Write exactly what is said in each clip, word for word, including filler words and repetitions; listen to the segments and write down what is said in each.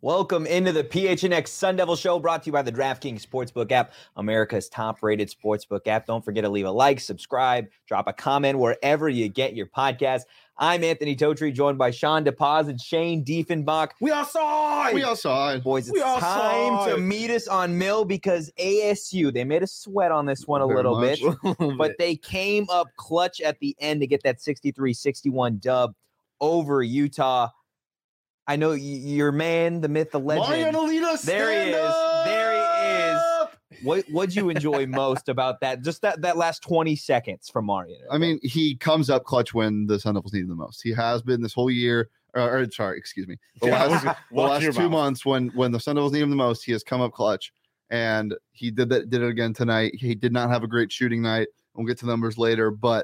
Welcome into the P H N X Sun Devil Show, brought to you by the DraftKings Sportsbook app, America's top-rated sportsbook app. Don't forget to leave a like, subscribe, drop a comment wherever you get your podcast. I'm Anthony Totri, joined by Sean DePaz and Shane Diefenbach. We all saw it. We all saw it. Boys, it's We all time saw to it. meet us on Mill because A S U, they made us sweat on this one a Very little much. bit, but they came up clutch at the end to get that sixty-three sixty-one dub over Utah. I know y- your man, the myth, the legend. Mariano Lita, There he stand is. up! There he is. What what'd you enjoy most about that? Just that, that last twenty seconds from Mario. I mean, he comes up clutch when the Sun Devils need him the most. He has been this whole year. Or, or sorry, excuse me. The Yeah, last, the watch last your two mouth. months when when the Sun Devils need him the most, he has come up clutch, and he did that. Did it again tonight. He did not have a great shooting night. We'll get to the numbers later, but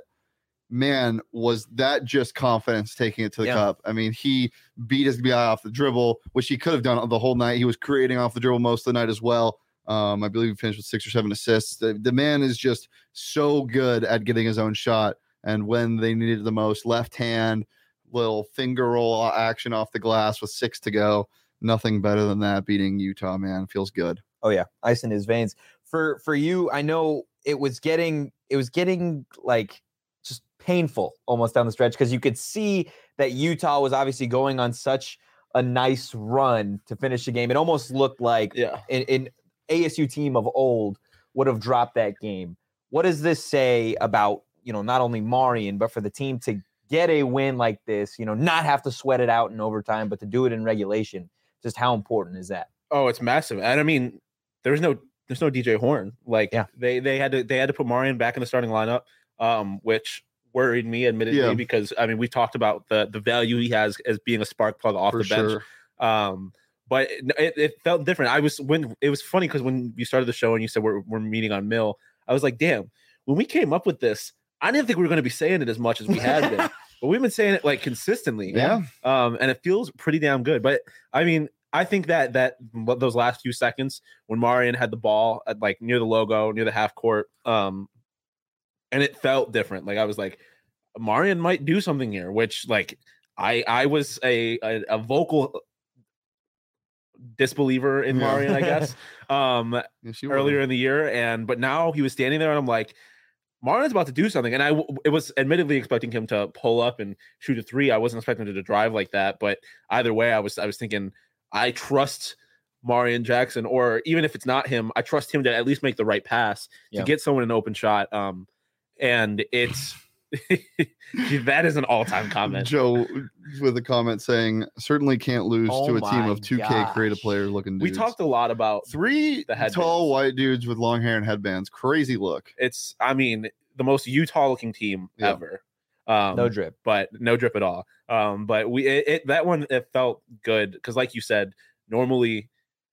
man, was that just confidence taking it to the Yeah. cup? I mean, he beat his guy off the dribble, which he could have done the whole night. He was creating off the dribble most of the night as well. Um, I believe he finished with six or seven assists. The, the man is just so good at getting his own shot. And when they needed it the most, left hand, little finger roll action off the glass with six to go. Nothing better than that. Beating Utah, man, feels good. Oh yeah, ice in his veins. For for you, I know it was getting it was getting like just painful almost down the stretch because you could see that Utah was obviously going on such a nice run to finish the game. It almost looked like Yeah. an, an A S U team of old would have dropped that game. What does this say about, you know, not only Marian, but for the team to get a win like this, you know, not have to sweat it out in overtime, but to do it in regulation? Just how important is that? Oh, it's massive. And I mean, there's no there's no D J Horn. Like Yeah. they they had to they had to put Marian back in the starting lineup, um, which worried me admittedly Yeah. because I mean we talked about the the value he has as being a spark plug off For the bench. sure. Um, but it, it, it felt different. I was when it was funny because when you started the show and you said we're we're meeting on Mill, I was like, damn, when we came up with this, I didn't think we were going to be saying it as much as we had been, but we've been saying it like consistently. Yeah. Um, and it feels pretty damn good. But I mean, I think that that what those last few seconds when Marian had the ball at like near the logo, near the half court, um, and it felt different. Like I was like, Marian might do something here, which like I I was a a, a vocal disbeliever in Yeah. Marian, I guess, um, Yes, you earlier were. in the year, and but now he was standing there, and I'm like, Marian's about to do something, and I w- it was admittedly expecting him to pull up and shoot a three. I wasn't expecting him to drive like that, but either way, I was I was thinking I trust Marian Jackson, or even if it's not him, I trust him to at least make the right pass Yeah. to get someone an open shot. Um, and it's that is an all-time comment. Joe with a comment saying, certainly can't lose Oh to a team my of two K gosh. creative player looking We dudes. talked a lot about Three the headbands. tall white dudes with long hair and headbands. Crazy look. it's I mean the most Utah-looking team Yeah. ever. Um, No drip. but no drip at all. Um, but we it, it that one it felt good because, like you said, normally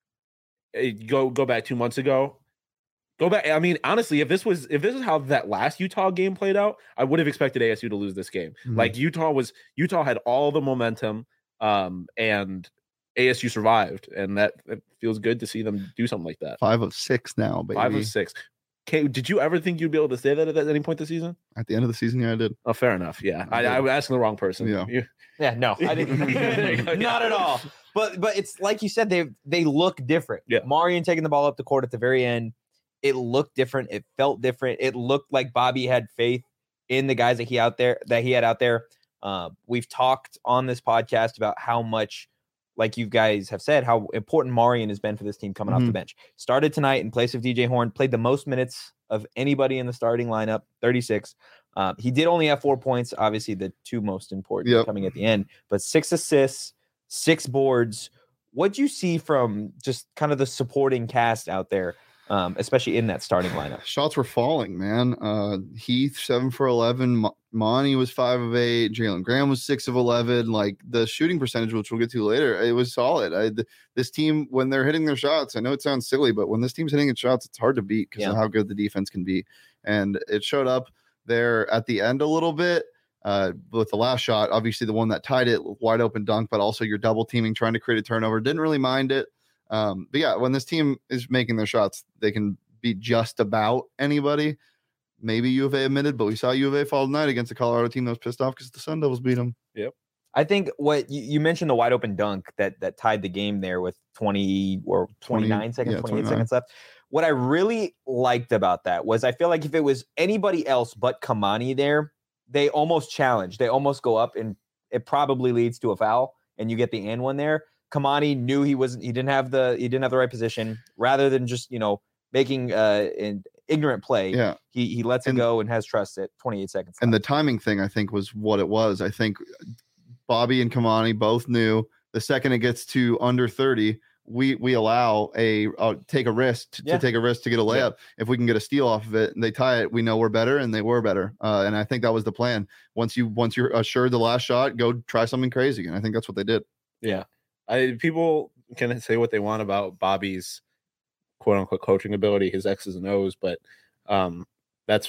it, go go back two months ago. Go back. I mean, honestly, if this was if this is how that last Utah game played out, I would have expected A S U to lose this game. Mhm. Like Utah was Utah had all the momentum, um, and A S U survived, and that it feels good to see them do something like that. Five of six now, baby. Five of six. Okay, did you ever think you'd be able to say that at any point this season? At the end of the season, yeah, I did. Oh, fair enough. Yeah, I, did. I was asking the wrong person. Yeah. You- Yeah, no, I didn't. Not at all. But but it's like you said, they they look different. Yeah. Marian taking the ball up the court at the very end, it looked different. It felt different. It looked like Bobby had faith in the guys that he out there that he had out there. Uh, we've talked on this podcast about how much, like you guys have said, how important Marian has been for this team coming off the Mhm. bench. Started tonight in place of D J Horn, played the most minutes of anybody in the starting lineup, thirty-six. Uh, he did only have four points, obviously the two most important Yep. coming at the end, but six assists, six boards. What'd you see from just kind of the supporting cast out there, um, especially in that starting lineup? Shots were falling, man. Uh, Heath, seven for eleven. Mo- Monty was five of eight. Jalen Graham was six of eleven. Like the shooting percentage, which we'll get to later, it was solid. I, th- this team, when they're hitting their shots, I know it sounds silly, but when this team's hitting its shots, it's hard to beat because Yeah. of how good the defense can be. And it showed up there at the end a little bit. Uh, with the last shot, obviously the one that tied it, wide open dunk, but also you're double teaming, trying to create a turnover. Didn't really mind it. Um, but yeah, when this team is making their shots, they can beat just about anybody. Maybe U of A admitted, but we saw U of A fall tonight against a Colorado team that was pissed off because the Sun Devils beat them. I think what you, you mentioned the wide open dunk that that tied the game there with twenty or twenty-nine twenty, seconds, yeah, twenty-eight twenty-nine. seconds left. What I really liked about that was I feel like if it was anybody else but Kamani there, they almost challenge. They almost go up and it probably leads to a foul and you get the and one there. Kamani knew he wasn't he didn't have the he didn't have the right position. Rather than just, you know, making uh an ignorant play, Yeah. he he lets And- it go and has trust at twenty-eight seconds. And the left. timing thing, I think, was what it was. I think Bobby and Kamani both knew the second it gets to under thirty, we we allow a uh, take a risk to, Yeah. to take a risk to get a layup. Yeah. If we can get a steal off of it and they tie it, we know we're better, and they were better. Uh, and I think that was the plan. Once you once you're assured the last shot, go try something crazy. And I think that's what they did. Yeah. I people can say what they want about Bobby's quote unquote coaching ability, his X's and O's, but um, that's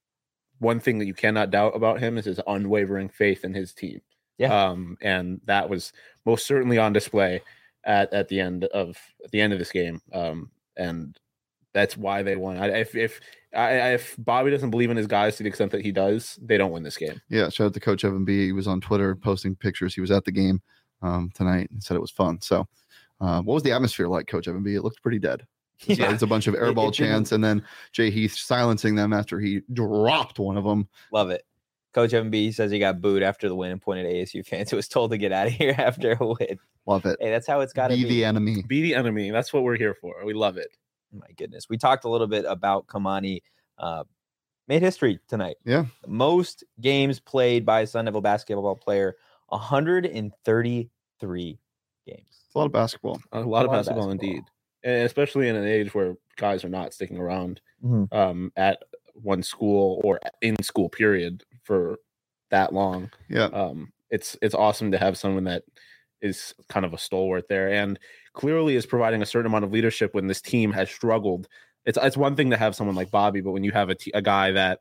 one thing that you cannot doubt about him is his unwavering faith in his team. Yeah. Um, and that was most certainly on display at, at the end of at the end of this game. Um, and that's why they won. I, if if I, if Bobby doesn't believe in his guys to the extent that he does, they don't win this game. Yeah, shout out to Coach Evan B. He was on Twitter posting pictures. He was at the game um, tonight and said it was fun. So, uh, what was the atmosphere like, Coach Evan B? It looked pretty dead. It's, Yeah. it's a bunch of It- airball it didn't- chants, and then Jay Heath silencing them after he dropped one of them. Love it. Coach M B says he got booed after the win and pointed at A S U fans who was told to get out of here after a win. Love it. Hey, that's how it's got to Be be. the enemy. Be the enemy. That's what we're here for. We love it. My goodness. We talked a little bit about Kamani. Uh, made history tonight. Yeah. Most games played by a Sun Devil basketball player, one hundred thirty-three games. It's a lot of basketball. A lot of A lot of basketball, basketball. indeed, and especially in an age where guys are not sticking around Mhm. um, at one school or in school period for that long. Yeah. Um, it's it's awesome to have someone that is kind of a stalwart there, and clearly is providing a certain amount of leadership when this team has struggled. It's it's one thing to have someone like Bobby, but when you have a, t- a guy that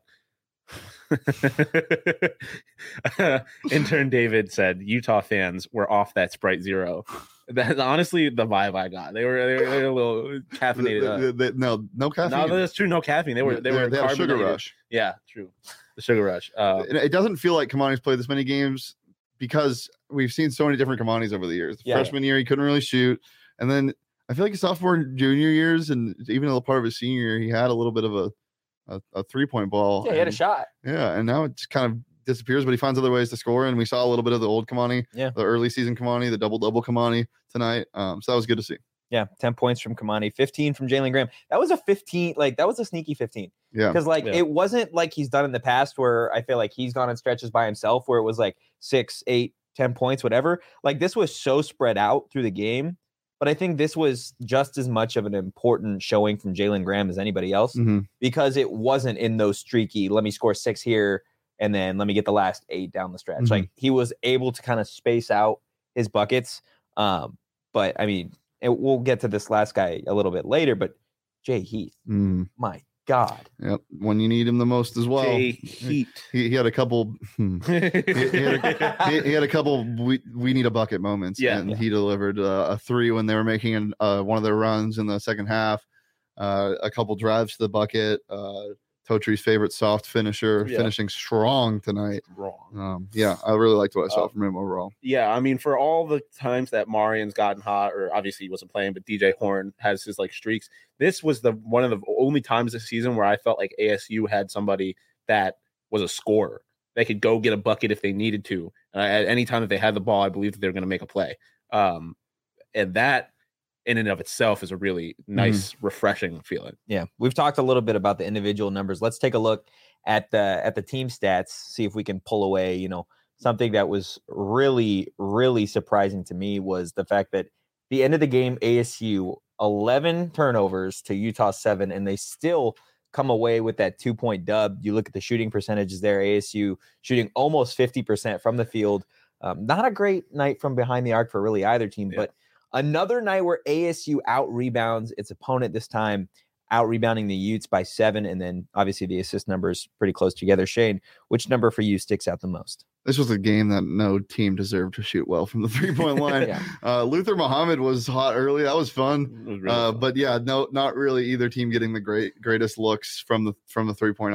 intern David said Utah fans were off that Sprite Zero. That's honestly the vibe I got. They were they were, they were a little caffeinated. The- up. the- the- no, no caffeine. No, that's true. No caffeine. They were they, were they had a sugar carbonated. rush. Yeah, true. The sugar rush. Uh, It, it doesn't feel like Kamani's played this many games because we've seen so many different Kamanis over the years. The Yeah. freshman year, he couldn't really shoot. And then I feel like his sophomore and junior years, and even a part of his senior year, he had a little bit of a, a, a three point ball. Yeah, he had a and- shot. Yeah, and now it just kind of disappears, but he finds other ways to score. And we saw a little bit of the old Kamani, Yeah. the early season Kamani, the double double Kamani tonight. Um, so that was good to see. Yeah, ten points from Kamani, fifteen from Jalen Graham. That was a fifteen, like that was a sneaky fifteen. Yeah, Because like Yeah. it wasn't like he's done in the past where I feel like he's gone on stretches by himself where it was like six, eight, ten points, whatever. Like this was so spread out through the game. But I think this was just as much of an important showing from Jalen Graham as anybody else Mhm. because it wasn't in those streaky, let me score six here and then let me get the last eight down the stretch. Mhm. Like he was able to kind of space out his buckets. Um, but I mean, it, we'll get to this last guy a little bit later, but Jay Heath, Mm, my God. yep. When you need him the most as well. Jay Heat. He, he had a couple. hmm. he, he had a, he, he had a couple we, we need a bucket moments, Yeah. and Yeah. he delivered uh, a three when they were making an, uh, one of their runs in the second half, uh, a couple drives to the bucket, uh, Totri's favorite soft finisher, Yeah. finishing strong tonight. Wrong. Um, yeah, I really liked what I saw Uh, from him overall. Yeah, I mean, for all the times that Marian's gotten hot, or obviously he wasn't playing, but D J Horn has his like streaks. This was the one of the only times this season where I felt like A S U had somebody that was a scorer. They could go get a bucket if they needed to. Uh, at any time that they had the ball, I believe that they're going to make a play. Um, and that, in and of itself, is a really nice, refreshing feeling. Yeah, we've talked a little bit about the individual numbers. Let's take a look at the at the team stats, see if we can pull away, you know, something that was really, really surprising to me was the fact that the end of the game, A S U eleven turnovers to Utah seven, and they still come away with that two point dub. You look at the shooting percentages there, A S U shooting almost fifty percent from the field. Um, not a great night from behind the arc for really either team, Yeah. but another night where A S U out rebounds its opponent, this time out rebounding the Utes by seven. And then obviously the assist numbers pretty close together. Shane, which number for you sticks out the most? This was a game that no team deserved to shoot well from the three point line. Yeah. uh, Luther Muhammad was hot early. That was fun. It was really Uh, fun. but yeah, no, not really either team getting the great greatest looks from the from the three point arc.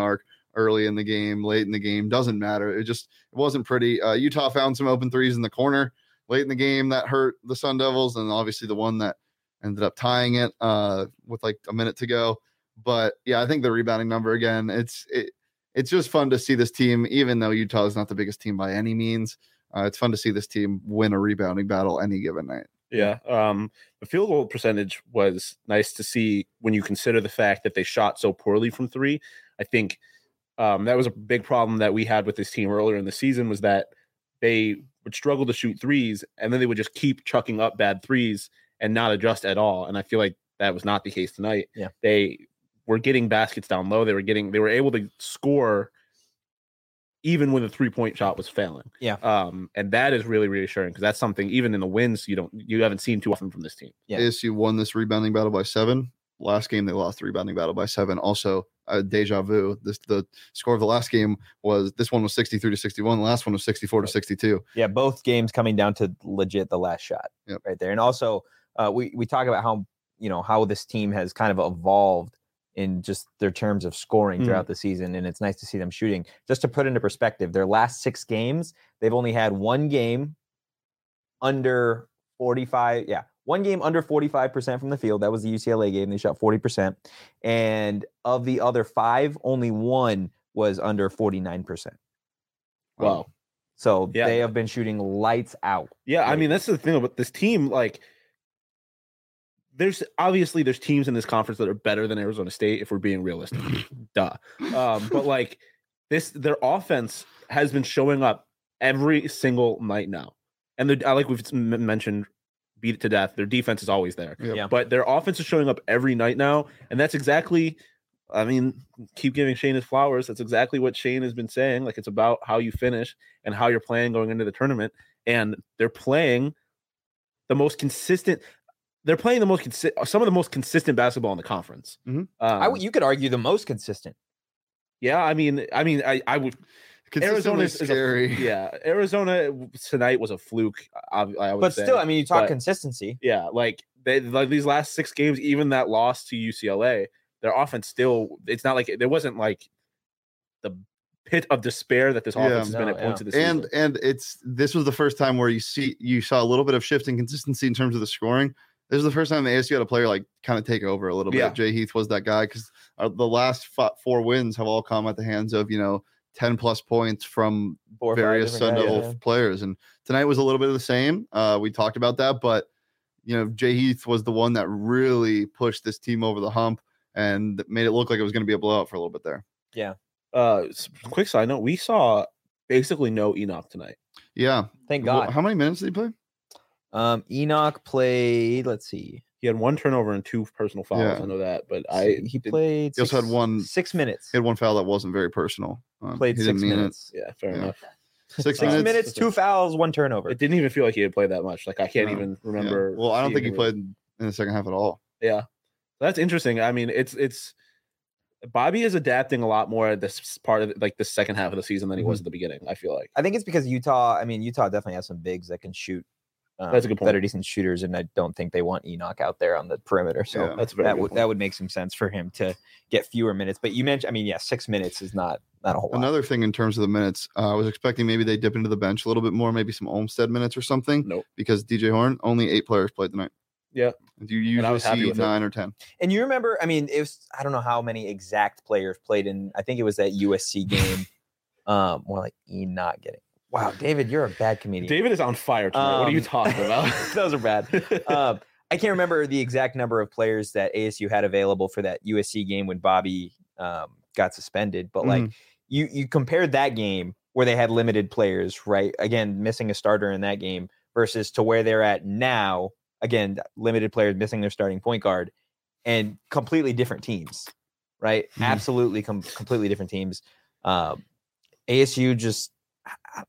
early in the game, late in the game, doesn't matter. It just it wasn't pretty. Uh, Utah found some open threes in the corner late in the game that hurt the Sun Devils, and obviously the one that ended up tying it uh, with like a minute to go. But yeah, I think the rebounding number again, it's it, it's just fun to see this team, even though Utah is not the biggest team by any means. Uh, it's fun to see this team win a rebounding battle any given night. Yeah. Um, the field goal percentage was nice to see when you consider the fact that they shot so poorly from three. I think um, that was a big problem that we had with this team earlier in the season, was that they would struggle to shoot threes, and then they would just keep chucking up bad threes and not adjust at all. And I feel like that was not the case tonight. Yeah. They were getting baskets down low. They were getting, they were able to score even when the three-point shot was failing. Yeah. Um, and that is really reassuring, because that's something, even in the wins, you don't, you haven't seen too often from this team. Yeah. A S U won this rebounding battle by seven. Last game, they lost the rebounding battle by seven. Also, uh, deja vu. This the score of the last game was, this one was sixty-three to sixty-one. The last one was sixty-four to sixty-two. Yeah, both games coming down to legit the last shot. Yep. Right there. And also, uh, we we talk about how, you know, how this team has kind of evolved in just their terms of scoring throughout the season, and it's nice to see them shooting. Just to put into perspective, their last six games, they've only had one game under forty-five. Yeah, one game under forty-five percent from the field. That was the U C L A game. They shot forty percent. And of the other five, only one was under forty-nine percent. Wow. So Yeah. they have been shooting lights out. Yeah, I Right. mean, that's the thing about this team. Like, there's obviously there's teams in this conference that are better than Arizona State, if we're being realistic. Duh. Um, but like this, their offense has been showing up every single night now. And the, I like we've m- mentioned, beat it to death. Their defense is always there. Yep. Yeah. But their offense is showing up every night now. And that's exactly, I mean, keep giving Shane his flowers. That's exactly what Shane has been saying. Like, it's about how you finish and how you're playing going into the tournament. And they're playing the most consistent. They're playing the most consi- some of the most consistent basketball in the conference. Mhm. Um, I w- you could argue the most consistent. yeah, I mean, I mean, I, I would. Consistently is, is a- scary. yeah, Arizona tonight was a fluke. I, I would But say. still, I mean, you talk but- consistency. Yeah, like they like these last six games, even that loss to U C L A, their offense still. It's not like there wasn't like the pit of despair that this Yeah. offense has been No, at points yeah. of the and season. and it's this was the first time where you see you saw a little bit of shift in consistency in terms of the scoring. This is the first time the A S U had a player like kind of take over a little bit. Yeah. Jay Heath was that guy, because the last f- four wins have all come at the hands of, you know, ten plus points from Four or five various Sun different guys, Devil yeah. players. And tonight was a little bit of the same. Uh, we talked about that, but you know, Jay Heath was the one that really pushed this team over the hump and made it look like it was going to be a blowout for a little bit there. Uh, s- quick side note: we saw basically no Enoch tonight. Yeah. Thank Well, God. how many minutes did he play? Um, Enoch played. Let's see. He had one turnover and two personal fouls. Yeah. I know that, but I I he did- played. He also six- had one- six minutes. He had one foul that wasn't very personal. Um, Played he didn't six mean it. minutes. Yeah, fair Yeah. enough. Six, Six minutes. minutes, two fouls, one turnover. It didn't even feel like he had played that much. Like I can't No. even Yeah. remember. Well, I don't think he seeing him. played in the second half at all. Yeah, that's interesting. I mean, it's it's Bobby is adapting a lot more at this part of like the second half of the season than he was Mm-hmm. at the beginning. I feel like. I think it's because Utah. I mean, Utah definitely has some bigs that can shoot. Um, That's a good point. That are decent shooters, and I don't think they want Enoch out there on the perimeter. So Yeah. That's a very that good would point. that would make some sense for him to get fewer minutes. But you mentioned, I mean, yeah, six minutes is not not a whole lot. Another thing in terms of the minutes, uh, I was expecting maybe they dip into the bench a little bit more, maybe some Olmstead minutes or something. Nope. Because D J Horn, only eight players played tonight. Yeah. You I usually was happy see with it. nine or ten. And you remember, I mean, it was I don't know how many exact players played in. I think it was that U S C game. um, more like Enoch getting. Wow, David, you're a bad comedian. David is on fire tonight. what are you Um, talking about? Those are bad. um, I can't remember the exact number of players that A S U had available for that U S C game when Bobby um, got suspended. But like you, you compared that game where they had limited players, right? Again, missing a starter in that game versus to where they're at now. Again, limited players missing their starting point guard, and completely different teams, right? Mhm. Absolutely, com- completely different teams. Um, A S U just. I,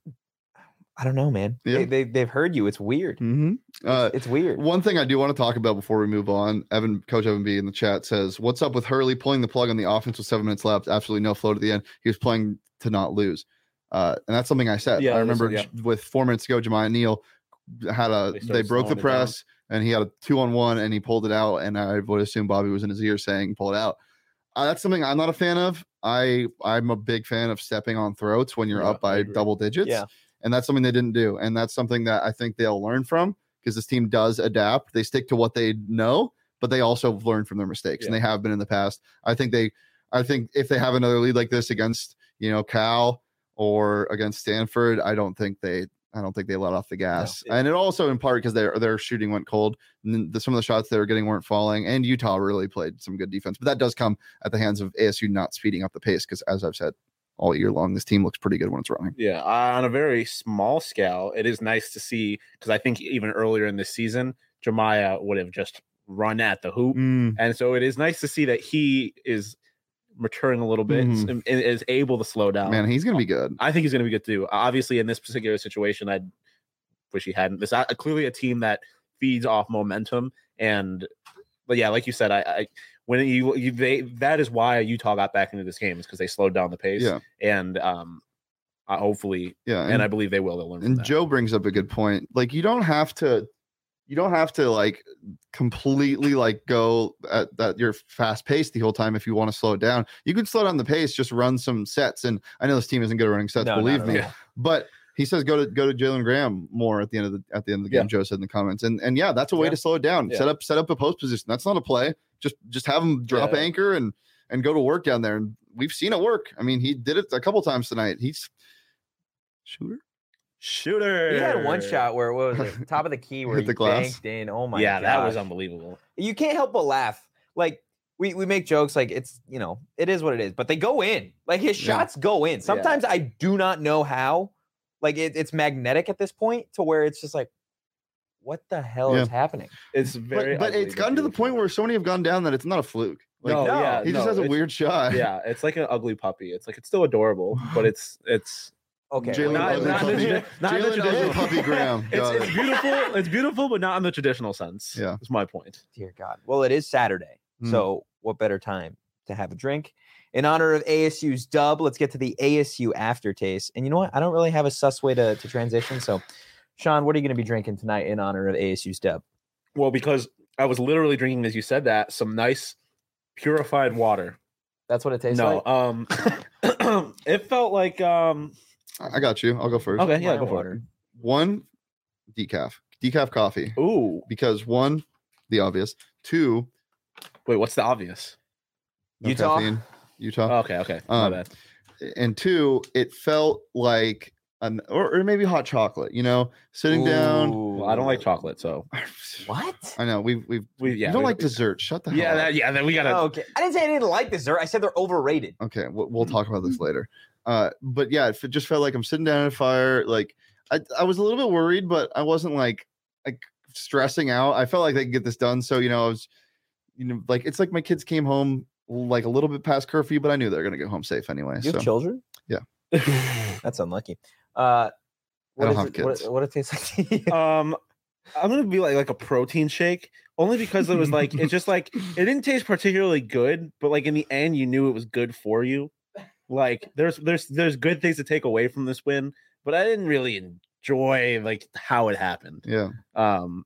I don't know, man. Yeah. They, they they've heard you. It's weird. Mm-hmm. Uh, It's weird. One thing I do want to talk about before we move on, Evan, Coach Evan B in the chat says, "What's up with Hurley pulling the plug on the offense with seven minutes left? Absolutely no flow to the end. He was playing to not lose." Uh, and that's something I said. Yeah, I remember listen, j- with four minutes to go, Jemiah Neal had a They they, started broke the slowing it press and he had a two on one and he pulled it out. And I would assume Bobby was in his ear saying, "Pull it out." Uh, that's something I'm not a fan of. I I'm a big fan of stepping on throats when you're Yeah, up I by agree. double digits. Yeah. And that's something they didn't do. And that's something that I think they'll learn from because this team does adapt. They stick to what they know, but they also learn from their mistakes. And Yeah. they have been in the past. I think they I think if they have another lead like this against, you know, Cal or against Stanford, I don't think they I don't think they let off the gas. No. And it also in part because their their shooting went cold. And the, some of the shots they were getting weren't falling. And Utah really played some good defense. But that does come at the hands of A S U not speeding up the pace because, as I've said all year long, this team looks pretty good when it's running. Yeah, uh, on a very small scale, it is nice to see because I think even earlier in this season, Jemiah would have just run at the hoop, Mm, and so it is nice to see that he is maturing a little bit Mhm. and, and is able to slow down. man, he's gonna be good. I think he's going to be good too. Obviously, in this particular situation, I wish he hadn't. This uh, clearly a team that feeds off momentum, and but yeah, like you said, I, I when you you they that is why Utah got back into this game is because they slowed down the pace, Yeah. and um, uh, hopefully, Yeah. and, I believe they will. They'll learn from And that. Joe brings up a good point. Like you don't have to you don't have to like completely like go at that you're fast paced the whole time if you want to slow it down. You can slow down the pace, just run some sets. And I know this team isn't good at running sets, No, believe not at me. all. But he says go to go to Jalen Graham more at the end of the at the end of the game, Yeah. Joe said in the comments. And and yeah, that's a way Yeah. to slow it down. Yeah. Set up set up a post position. That's not a play. Just just have him drop Yeah. anchor and and go to work down there. And we've seen it work. I mean, he did it a couple times tonight. He's shooter. Shooter. He had one shot where what was it? Top of the key where Hit he the glass. banked in. Oh my yeah, god. that was unbelievable. You can't help but laugh. Like we we make jokes like it's, you know, it is what it is, but they go in. Like his Yeah. shots go in. Sometimes I do not know how. Like it, it's magnetic at this point to where it's just like, what the hell Yeah. is happening? It's very, But, but ugly, it's gotten to the beautiful. point where so many have gone down that it's not a fluke. Like no, no, yeah, he just no, has a it's- weird shot. Yeah, it's like an ugly puppy. It's like it's still adorable, but it's it's Okay. Jalen not, Ugly not, in Puppy. the, not in the Jalen Ugly traditional Puppy Graham. It's, Got it's it. beautiful. It's beautiful, but not in the traditional sense. Yeah. That's my point. Dear God. Well, it is Saturday. Mm. So what better time to have a drink? In honor of A S U's dub, let's get to the A S U aftertaste. And you know what? I don't really have a sus way to, to transition. So, Sean, what are you going to be drinking tonight in honor of A S U's dub? Well, because I was literally drinking, as you said that, some nice purified water. That's what it tastes No, like? um, it felt like um. I got you. I'll go first. Okay, yeah, Wine go for water. it. One, decaf. Decaf coffee. Ooh, Because one, the obvious. Two, wait, what's the obvious? no Utah? caffeine. Utah. Okay, okay, my Um, bad. And two, it felt like an or, or maybe hot chocolate, you know, sitting down. Well, I don't like chocolate, so What? I know we've we've we yeah. you don't we- like dessert. Shut the hell Yeah, up. that, yeah. Then we gotta. Oh, okay. I didn't say I didn't like dessert. I said they're overrated. Okay, we'll, we'll talk about this later. Uh, but yeah, it f- just felt like I'm sitting down at a fire. Like I, I was a little bit worried, but I wasn't like like stressing out. I felt like they could get this done. So you know, I was, you know, like it's like my kids came home like a little bit past curfew, but I knew they were gonna get home safe anyway. You So have children? Yeah. That's unlucky. Uh, what don't is have it- what- kids. What, it tastes like? um, I'm gonna be like like a protein shake, only because it was like it's just like it didn't taste particularly good, but like in the end, you knew it was good for you. Like there's there's there's good things to take away from this win, but I didn't really enjoy like how it happened. yeah, Um,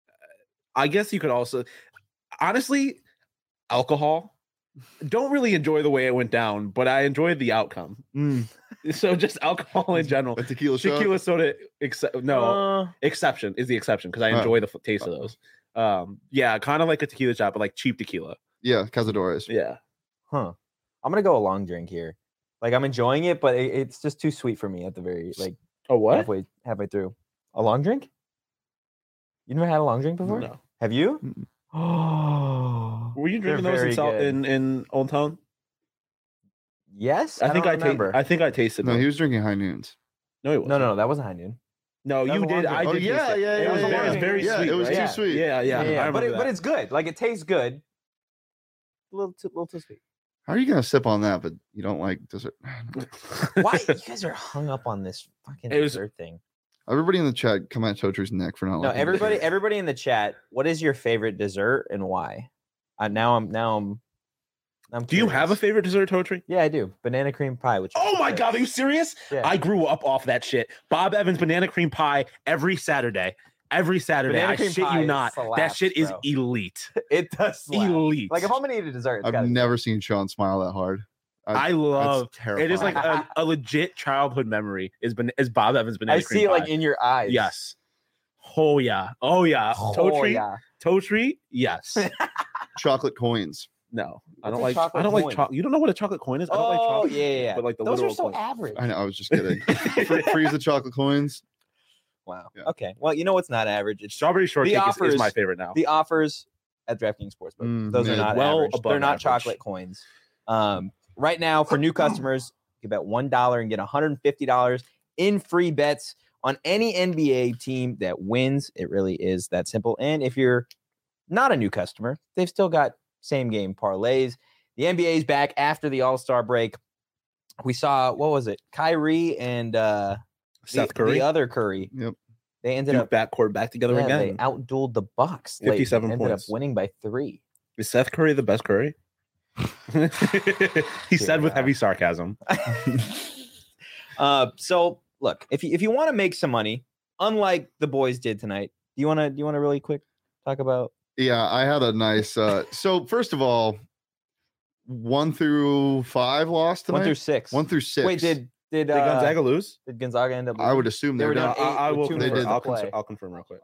I guess you could also, honestly, alcohol. Don't really enjoy the way it went down, but I enjoyed the outcome. So just alcohol in general. a tequila shot. Tequila soda, except no Uh, exception is the exception because I Oh. enjoy the f- taste of those. Um, yeah, kind of like a tequila shot, but like cheap tequila. Yeah, Cazadores. Yeah, huh. I'm gonna go a long drink here. Like I'm enjoying it, but it, it's just too sweet for me at the very like Oh what? halfway halfway through. A long drink? You never had a long drink before? No. Have you? Mm-mm. Oh, Were you they're drinking those in, very South, good. in in Old Town? Yes, I, think don't I ta- remember. I think I tasted. No, them. he was drinking high noons. no, he wasn't. no, no, no, that wasn't high noon. no. That You was a long did. I drink. Oh, did. yeah, taste it. yeah, It yeah, was, yeah, very- it was yeah. very Yeah, sweet. it was right? too yeah. sweet. Yeah, yeah. Yeah, I but remember it, but that. it's good. Like it tastes good. A little too, little too sweet. How are you gonna sip on that, but you don't like dessert? Why you guys are hung up on this fucking It was- dessert thing? Everybody in the chat, come at Totru's neck for not. No, liking everybody, dessert. everybody in the chat. What is your favorite dessert and why? Uh, now I'm now I'm. I'm Do you have a curious. favorite dessert, Totri? Yeah, I do. Banana cream pie. Which is Oh my good. god, are you serious? Yeah. I grew up off that shit. Bob Evans banana cream pie every Saturday. every Saturday. Banana I cream shit pie you not. slaps, that shit is bro. elite. It does slap. Elite. Like if I'm gonna eat a dessert, it's I've gotta be- never seen Sean smile that hard. I love terrifying. it. Is like a, a legit childhood memory. Is ban- is Bob Evans banana I cream see it like pie. in your eyes. Yes. Oh yeah. Oh yeah. Oh, toe treat. yeah. Toe treat. Yes. chocolate coins. No, I What's don't a like. chocolate I don't like coin? chocolate. You don't know what a chocolate coin is? I don't Oh like chocolate. yeah, yeah, yeah. But like the Those are literal so coin. average. I know. I was just kidding. Free- Freeze the chocolate coins. Wow. Yeah. Okay. Well, you know what's not average? It's Strawberry shortcake is, offers- is my favorite now. the offers at DraftKings Sportsbook. Mm, Those are mid. not Well average. above They're not average. chocolate coins. Um, right now for new customers, you bet one dollar and get one hundred fifty dollars in free bets on any N B A team that wins. It really is that simple. And if you're not a new customer, they've still got same game parlays. The N B A is back after the All-Star break. We saw, what was it? Kyrie and uh, Seth the, Curry. the other Curry. Yep. They ended Duke up backcourt back together yeah, again. they outdueled the Bucks. late and fifty-seven ended points. up winning by three. Is Seth Curry the best Curry? he said with Yeah. heavy sarcasm. uh, so look, if you if you want to make some money, unlike the boys did tonight, do you want to do you want to really quick talk about? Yeah, I had a nice. Uh, so first of all, one through five lost tonight. One through six. One through six. Wait, did did, Did uh, Gonzaga lose? did Gonzaga end up? I would losing? assume They they're were down done. eight I, I with will two confirm. minutes to I'll, play. cons- I'll confirm real quick.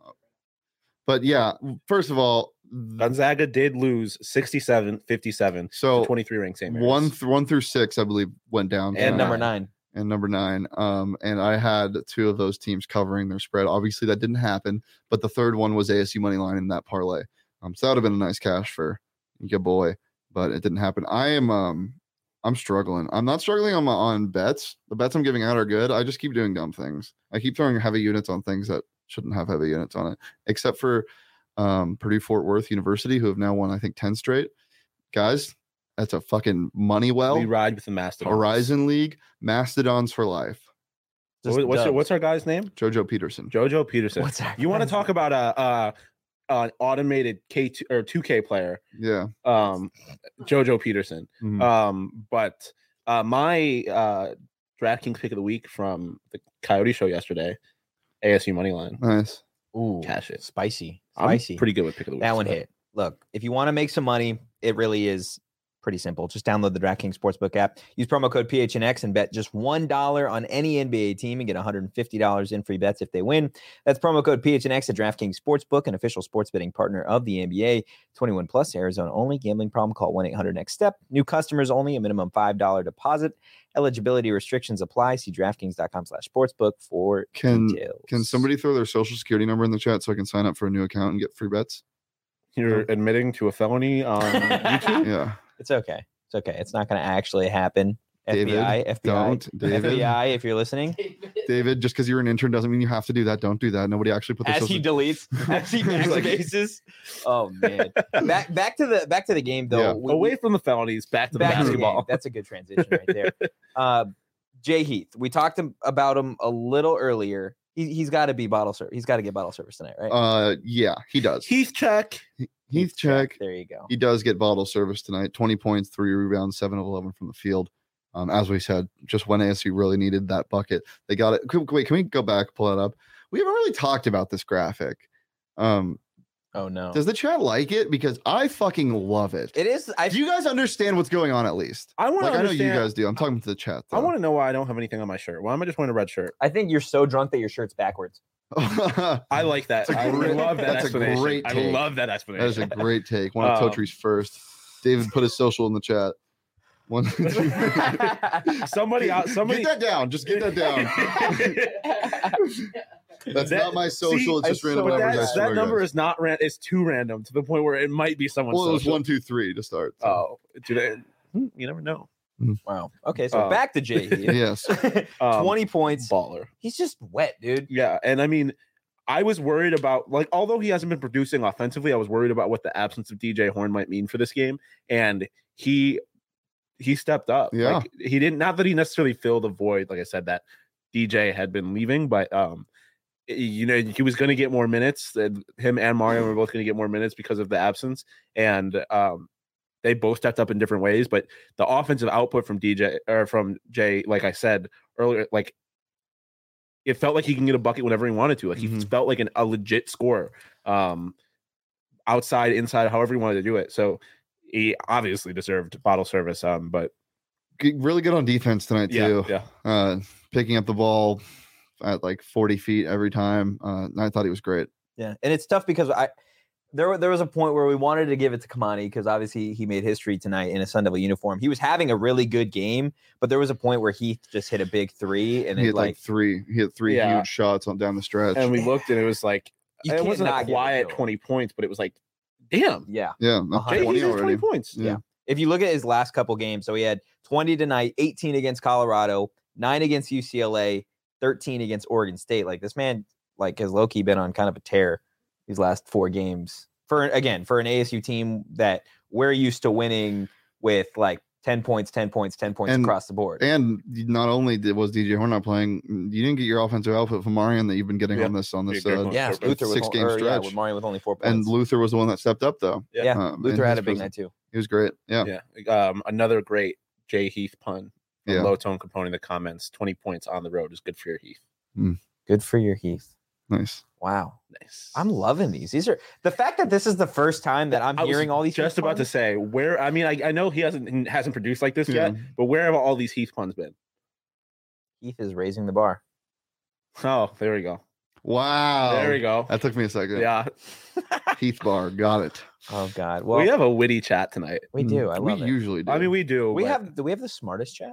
But yeah, first of all, Gonzaga did lose sixty-seven fifty-seven so to twenty-three ranked Saint Mary's. one th- one through six, I believe, went down. and tonight. number nine. and number nine. Um, and I had two of those teams covering their spread. Obviously, that didn't happen, but the third one was A S U money line in that parlay. Um, so that would have been a nice cash for your boy, but it didn't happen. I am um, I'm struggling. I'm not struggling on my on bets. The bets I'm giving out are good. I just keep doing dumb things. I keep throwing heavy units on things that shouldn't have heavy units on it, except for um, Purdue Fort Worth University, who have now won, I think, ten straight. Guys, that's a fucking money well. we ride with the Mastodons. Horizon League, Mastodons for life. Just What- what's, your, dubs. what's our guy's name? Jojo Peterson. Jojo Peterson. What's our You want to guy's talk about a, a an automated K two or two K player? Yeah. Um, Jojo Peterson. Mhm. Um, but uh, my uh, DraftKings pick of the week from the Coyote show yesterday, A S U money line. Nice. Ooh, Cash it. spicy, I'm spicy. pretty good with pick of the week. That one so. hit. Look, if you want to make some money, it really is pretty simple. Just download the DraftKings Sportsbook app. Use promo code P H N X and bet just one dollar on any N B A team and get one hundred fifty dollars in free bets if they win. That's promo code P H N X at DraftKings Sportsbook, an official sports betting partner of the N B A. twenty-one plus, Arizona only. Gambling problem? Call one eight hundred next step. New customers only. A minimum five dollars deposit. Eligibility restrictions apply. See DraftKings.com slash sportsbook for Can details. can somebody throw their social security number in the chat so I can sign up for a new account and get free bets? You're admitting to a felony on YouTube? Yeah. It's okay. It's okay. It's not going to actually happen. David, F B I, F B I, don't, David. F B I, if you're listening. David, just because you're an intern doesn't mean you have to do that. Don't do that. Nobody actually put their As social he deletes, as he backfaces. Oh man! Back back to the back to the game though. Yeah. We- Away we- from the felonies, back to the back to the basketball. game. That's a good transition right there. Uh, Jay Heath. We talked him- about him a little earlier. He, he's got to be bottle service. He's got to get bottle service tonight, right? Uh yeah, he does. Heath check. Heath check. There you go. He does get bottle service tonight. twenty points, three rebounds, seven of eleven from the field. Um, as we said, just when A S U really needed that bucket, they got it. Can- Wait, can we go back, pull it up? We haven't really talked about this graphic. Um, Oh no! does the chat like it? Because I fucking love it. It is. I Do you guys understand what's going on at least? I want Like, to I know you understand. guys do. I'm talking to the chat. I want to know why I don't have anything on my shirt. Why am I just wearing a red shirt? I think you're so drunk that your shirt's backwards. to. I like that. That's a I great- love that that's a explanation. great I take. love that That explanation. is a great take. One of Um, Totre's first. David put his social in the chat. One, two, somebody out. Somebody. get that down. Just get that down. That's That- not my social. see, it's just I random so- numbers. I That's, swear, that number guys. is not ran. It's too random to the point where it might be someone's. Well, it was social. one, two, three to start. so. Oh, do they? hmm, You never know. Wow. Okay, so Uh, back to Jay Heath. Yes. Um, Twenty points. baller. He's just wet, dude. Yeah, and I mean, I was worried about like although he hasn't been producing offensively, I was worried about what the absence of D J Horn might mean for this game, and he he stepped up. Yeah. Like, he didn't. Not that he necessarily filled the void, like I said, that D J had been leaving, but um, you know, he was going to get more minutes. And him and Mario were both going to get more minutes because of the absence, and um, they both stepped up in different ways. But the offensive output from D J or from Jay, like I said earlier, like it felt like he can get a bucket whenever he wanted to. Like he Mhm. felt like an, a legit scorer, um, outside, inside, however he wanted to do it. So he obviously deserved bottle service. Um, but G- really good on defense tonight yeah, too. yeah, Uh, picking up the ball at like forty feet every time. Uh, and I thought he was great. Yeah, and it's tough because I there there was a point where we wanted to give it to Kamani because obviously he made history tonight in a Sun Devil uniform. He was having a really good game, but there was a point where Heath just hit a big three, and He it had like, like three. He had three Yeah. huge shots on down the stretch. and we looked and it was like you it can't wasn't not a give it quiet to him. twenty points, but it was like, damn, Yeah, yeah, that's Uh-huh. Jay twenty Heath has already. twenty points. Yeah. if you look at his last couple games, so he had twenty tonight, eighteen against Colorado, nine against U C L A, thirteen against Oregon State. Like this man, like has low key been on kind of a tear these last four games. For again, for an A S U team that we're used to winning with like ten points, ten points, ten points And- across the board. And not only did, was D J Horn not playing, you didn't get your offensive output from Marion that you've been getting Yeah. on this on this. Yeah, great Uh, point. yeah, Six Luther with game or, yeah, stretch. with Mario with only four points. and Luther was the one that stepped up though. Yeah. yeah, um, in Luther had his a big presence. night too. He was great. Yeah, Yeah. Um, another great Jay Heath pun from Yeah. Low Tone Component in the comments. twenty points on the road is good for your Heath. Good for your Heath. nice. Wow. Nice. I'm loving these. These are the fact that this is the first time that I'm I was hearing all these. Just Heath about to puns. say where. I mean, I, I know he hasn't he hasn't produced like this Yeah. yet, but where have all these Heath puns been? Heath is raising the bar. Oh, there we go. Wow. There we go. That took me a second. Yeah, Heath Bar, got it. Oh God. Well, we have a witty chat tonight. we do. I we love it. usually do. I mean, we do. We but- have. Do we have the smartest chat?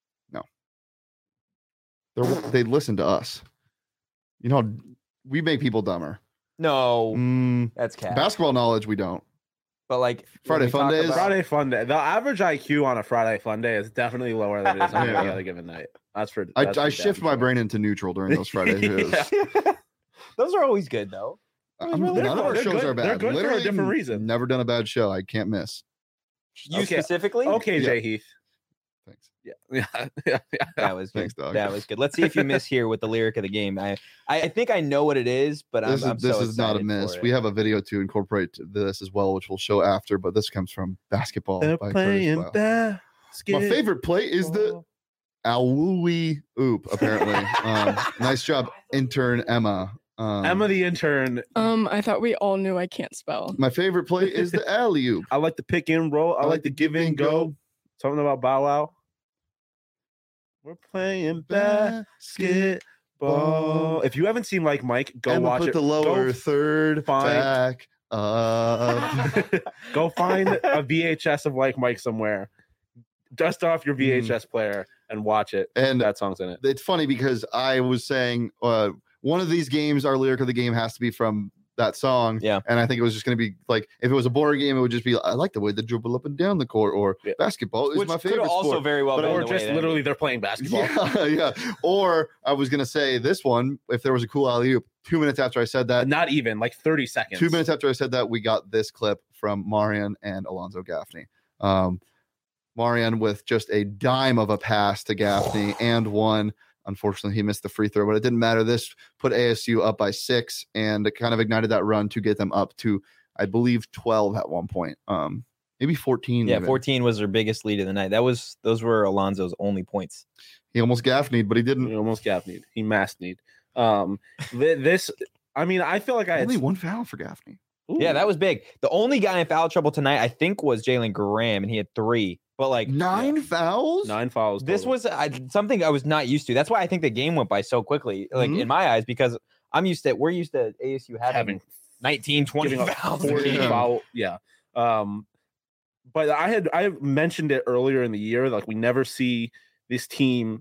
They're, they listen to us. You know, we make people dumber. No, Mm, that's cat. basketball knowledge, we don't. But like Friday when we fun talk days? about- Friday fun day. The average I Q on a Friday fun day is definitely lower than it is on Yeah. any other given night. That's for. I, that's I for shift damn my sure. brain into neutral during those Friday shows. Yeah. Those are always good though. I'm- really none of fun. our They're shows good- are they're bad. good for a Literally, different reason. Never done a bad show. I can't miss. You Okay. specifically? Okay, Yeah. Jay Heath. Thanks. Yeah, yeah, yeah. yeah. That was good. Thanks, dog. That was good. Let's see if you miss here with the lyric of the game. I, I, I think I know what it is, but This I'm, I'm is this so is not a excited miss. for We it. have a video to incorporate this as well, which we'll show after. But this comes from Basketball They're by Curtis playing Blau. basket. My favorite play is the Awui Oop. Apparently, um, nice job, intern Emma. Um, Emma the intern. Um, I thought we all knew I can't spell. My favorite play is the alley oop. I like the pick and roll. I, like the give and go. Something about Bow Wow. We're playing basketball. If you haven't seen Like Mike, go Emma watch put it. the lower Go, third find- back up. go find a V H S of Like Mike somewhere. Dust off your V H S player and watch it. And That song's in it. it's funny because I was saying uh, one of these games, our lyric of the game has to be from that song. Yeah. And I think it was just going to be like, if it was a boring game, it would just be, I like the way they dribble up and down the court, or Yeah. basketball is Which my could favorite also sport. very well But- been Or the way just it literally ended. they're playing basketball. Yeah, yeah. Or I was going to say this one, if there was a cool alley oop, two minutes after I said that, Not even like thirty seconds. two minutes after I said that, we got this clip from Marian and Alonzo Gaffney. Um, Marian with just a dime of a pass to Gaffney and one. Unfortunately, he missed the free throw, but it didn't matter. This put A S U up by six, and it kind of ignited that run to get them up to, I believe, twelve at one point. Um, maybe fourteen. Yeah, even. fourteen was their biggest lead of the night. That was those were Alonzo's only points. He almost Gaffneyed, but he didn't. He almost Gaffneyed. He mass need. Um, thi- this. I mean, I feel like I had Only one foul for Gaffney. Yeah, that was big. The only guy in foul trouble tonight, I think, was Jalen Graham, and he had three. But like Nine fouls. nine fouls. this total. was I, something I was not used to. That's why I think the game went by so quickly, like Mhm. in my eyes, because I'm used to we're used to A S U having, having nineteen, twenty giving up fouls. a forty game. foul. Yeah. Um, but I had I mentioned it earlier in the year. Like we never see this team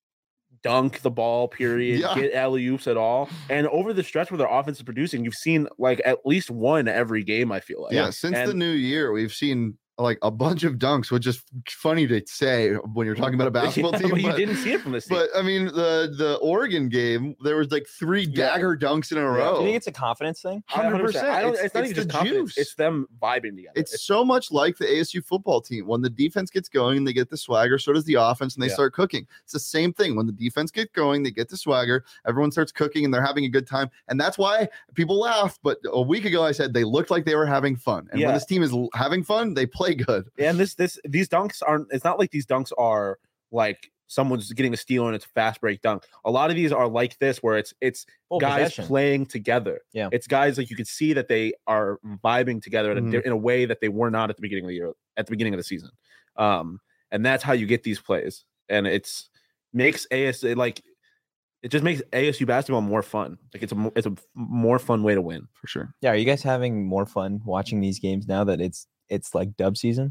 dunk the ball. Period. Yeah. Get alley oops at all. And over the stretch where their offense is producing, you've seen like at least one every game. I feel like. Yeah, since the And- new year, we've seen like a bunch of dunks, which is funny to say when you're talking about a basketball Yeah, team. but you but- didn't see it from this team. But I mean, the the Oregon game, there was like three Yeah. dagger dunks in a Yeah. row. Do you think it's a confidence thing? I- one hundred percent. I don't, It's- it's, not it's even just the confidence. juice. It's them vibing together. It's so much like the A S U football team. When the defense gets going and they get the swagger, so does the offense, and they Yeah. start cooking. It's the same thing. When the defense gets going, they get the swagger, everyone starts cooking, and they're having a good time. And that's why people laugh. But a week ago, I said they looked like they were having fun. And Yeah. when this team is l- having fun, they play good. and this this these dunks aren't. It's not like these dunks are like someone's getting a steal and it's a fast break dunk. A lot of these are like this, where it's it's Full guys possession. playing together. Yeah. It's guys like you could see that they are vibing together in, a, Mhm. di- in a way that they were not at the beginning of the year, at the beginning of the season. Um, and that's how you get these plays. And it's makes A S like it just makes A S U basketball more fun. Like it's a mo- it's a f- more fun way to win. For sure. Yeah, are you guys having more fun watching these games now that it's it's like dub season?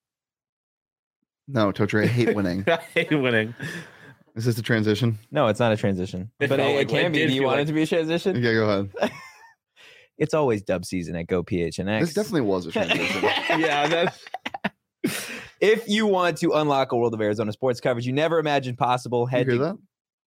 No, Totri, I hate winning. I hate winning. Is this the transition? No, it's not a transition, It but felt it, like it one. can It be. did Do you feel want like- it to be a transition? Yeah, go ahead. It's always dub season at Go P H N X. This definitely was a transition. Yeah, that's If you want to unlock a world of Arizona sports coverage you never imagined possible, You head hear to that?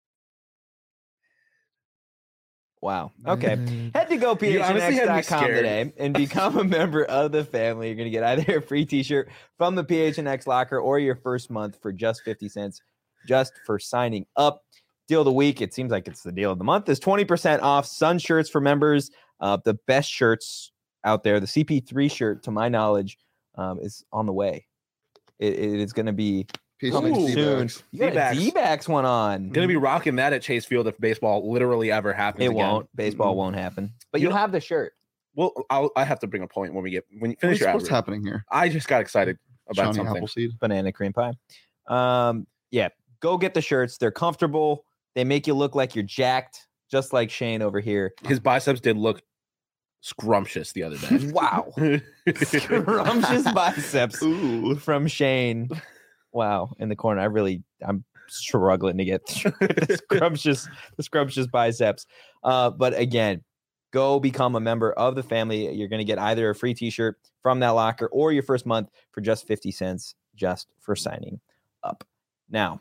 wow. Okay. Head to go P H N X honestly had me dot com scared. today and become a member of the family. You're going to get either a free t-shirt from the P H N X locker or your first month for just fifty cents just for signing up. Deal of the week, it seems like it's the deal of the month, is twenty percent off Sun shirts for members. Uh, the best shirts out there. The C P three shirt, to my knowledge, um, is on the way. It, it is going to be P H coming N X soon. D-backs. You got a D-backs. D-backs one on. gonna be rocking that at Chase Field if baseball literally ever happens. It again. won't. Baseball Mm. won't happen. But You you'll know- have the shirt. Well, I'll, I have to bring a point when we get when you finish What's, your what's outro. happening here? I just got excited about Shawnee something. Appleseed. Banana cream pie. Um, yeah, go get the shirts. They're comfortable. They make you look like you're jacked, just like Shane over here. His biceps did look scrumptious the other day. Wow. Scrumptious biceps Ooh. from Shane. Wow. In the corner. I really, I'm struggling to get the scrumptious, the scrumptious biceps. Uh, but again, go become a member of the family. You're going to get either a free t-shirt from that locker or your first month for just fifty cents just for signing up. Now,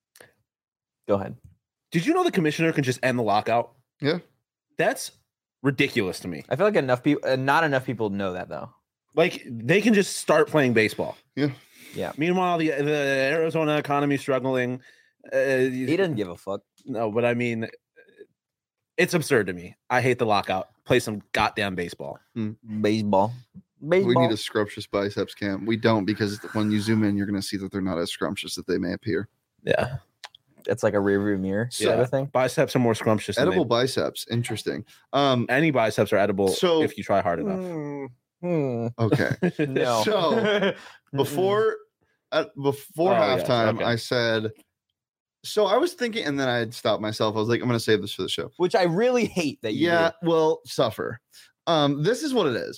go ahead. Did you know the commissioner can just end the lockout? Yeah. That's ridiculous to me. I feel like enough people, uh, not enough people know that though. Like they can just start playing baseball. Yeah. Yeah. Meanwhile, the the Arizona economy is struggling. Uh, He doesn't give a fuck. No, but I mean, it's absurd to me. I hate the lockout. Play some goddamn baseball. Baseball. Baseball. We need a scrumptious biceps cam. We don't, because when you zoom in, you're going to see that they're not as scrumptious that they may appear. Yeah, It's like a rear view mirror So- sort of thing. biceps are more scrumptious. Than Edible they- biceps. Interesting. Um. Any biceps are edible So- if you try hard enough. Hmm. Hmm. Okay. No. So, Before uh, before Oh, yes, halftime, okay. I said. So I was thinking, and then I had stopped myself. I was like, I'm going to save this for the show. Which I really hate that you Yeah, well, suffer. Um, this is what it is.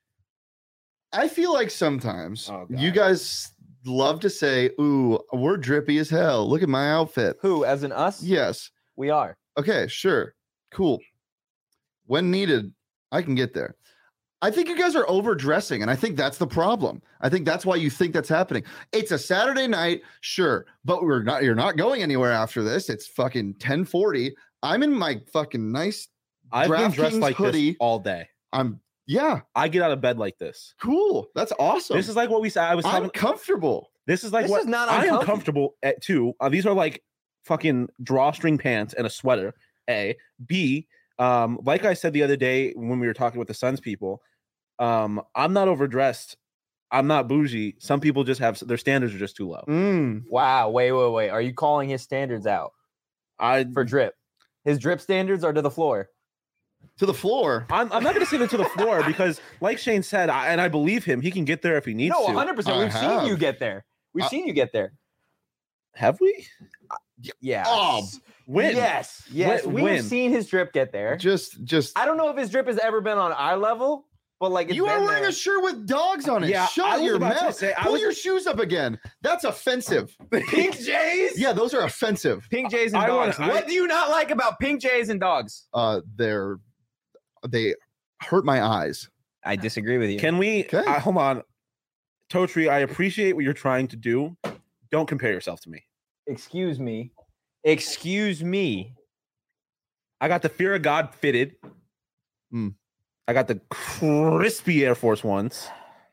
I feel like sometimes Oh, you God. guys love to say, "Ooh, we're drippy as hell. Look at my outfit." do. Who, as in us? Yes. We are. Okay, sure. Cool. When needed, I can get there. I think you guys are overdressing, and I think that's the problem. I think that's why you think that's happening. It's a Saturday night, sure, but we're not you're not going anywhere after this. It's fucking ten forty. I'm in my fucking nice I've been dressed DraftKings like hoodie. this all day. I'm yeah, I get out of bed like this. cool. That's awesome. This is like what we said. I was I'm talking. comfortable. This is like This what is not I am uncomfy. comfortable at too. Uh, these are like fucking drawstring pants and a sweater. A B. Um, like I said the other day when we were talking with the Suns people, um, I'm not overdressed. I'm not bougie. Some people just have their standards are just too low. Mm. Wow. Wait, wait, wait. Are you calling his standards out I for drip? His drip standards are to the floor. To the floor. I'm, I'm not going to say that to the floor because, like Shane said, I, and I believe him, he can get there if he needs No, to. one hundred percent. I We've seen have. you get there. We've I- seen you get there. Have we? Yeah. Oh, When? Yes. Yes. When- We've when? seen his drip get there. Just just I don't know if his drip has ever been on our level, but like it's you are been wearing there. a shirt with dogs on it. Yeah, I Shut was your about to mouth. say, I Pull was- your shoes up again. That's offensive. Pink Jays. Yeah, those are offensive. Pink Jays and I wanna- dogs. I- what do you not like about pink Jays and dogs? Uh, they're they hurt my eyes. I disagree with you. Can we? Okay. I, hold on. Totri, I appreciate what you're trying to do. Don't compare yourself to me. Excuse me. Excuse me. I got the Fear of God fitted. Hmm. I got the crispy Air Force Ones.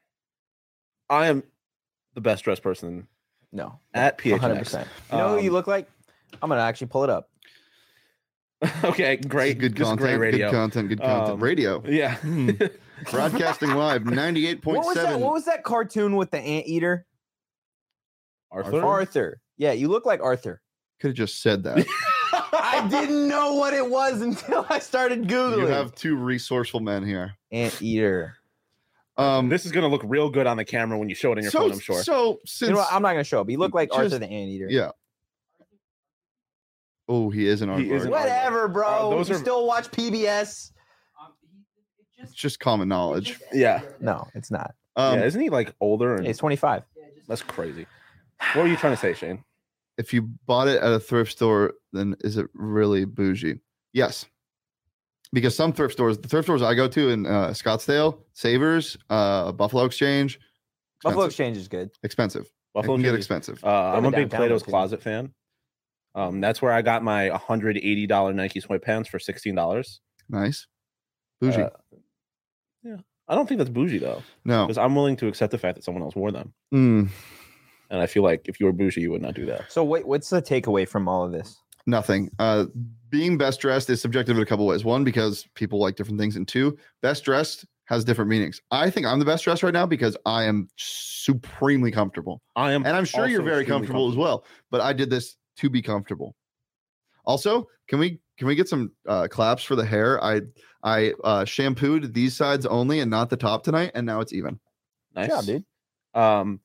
I am the best dressed person No. at P H one N hundred X. percent. You know who you Um, look like? I'm going to actually pull it up. Okay, great. Good This is content. great radio. Good content. Good content. Um, radio. Yeah. Hmm. Broadcasting live, ninety-eight point What was that? seven. What was that cartoon with the anteater? Arthur. Arthur. Yeah, you look like Arthur. Could have just said that. I didn't know what it was until I started Googling. You have two resourceful men here. Anteater. Um, This is gonna look real good on the camera when you show it in your so, phone, I'm sure. So since You know what? I'm not going to show up. You look like Just- Arthur the Anteater. yeah. Oh, he is an He is aardvark. an Whatever, bro. Uh, those you are- still watch P B S? It's just common knowledge. Yeah. No, it's not. Um, yeah, isn't he like older? And It's twenty-five. that's crazy. What were you trying to say, Shane? If you bought it at a thrift store, then is it really bougie? Yes. Because some thrift stores, the thrift stores I go to in uh, Scottsdale, Savers, uh, Buffalo Exchange, Buffalo expensive. Exchange is good. expensive. Buffalo it can get Exchange- expensive. Uh, I'm a Even big downtown Plato's was good. Closet fan. Um, that's where I got my one hundred eighty dollars Nike sweatpants for sixteen dollars. Nice. Bougie. Uh, yeah, I don't think that's bougie though, no. because I'm willing to accept the fact that someone else wore them, Mm, and I feel like if you were bougie, you would not do that. So wait, what's the takeaway from all of this? nothing. Uh, being best dressed is subjective in a couple ways. One, because people like different things. And two, best dressed has different meanings. I think I'm the best dressed right now because I am supremely comfortable. I am, And I'm sure you're also very extremely comfortable, as well. But I did this to be comfortable. Also, can we can we get some uh, claps for the hair? I I uh, shampooed these sides only and not the top tonight, and now it's even. Nice Good job, dude. Um,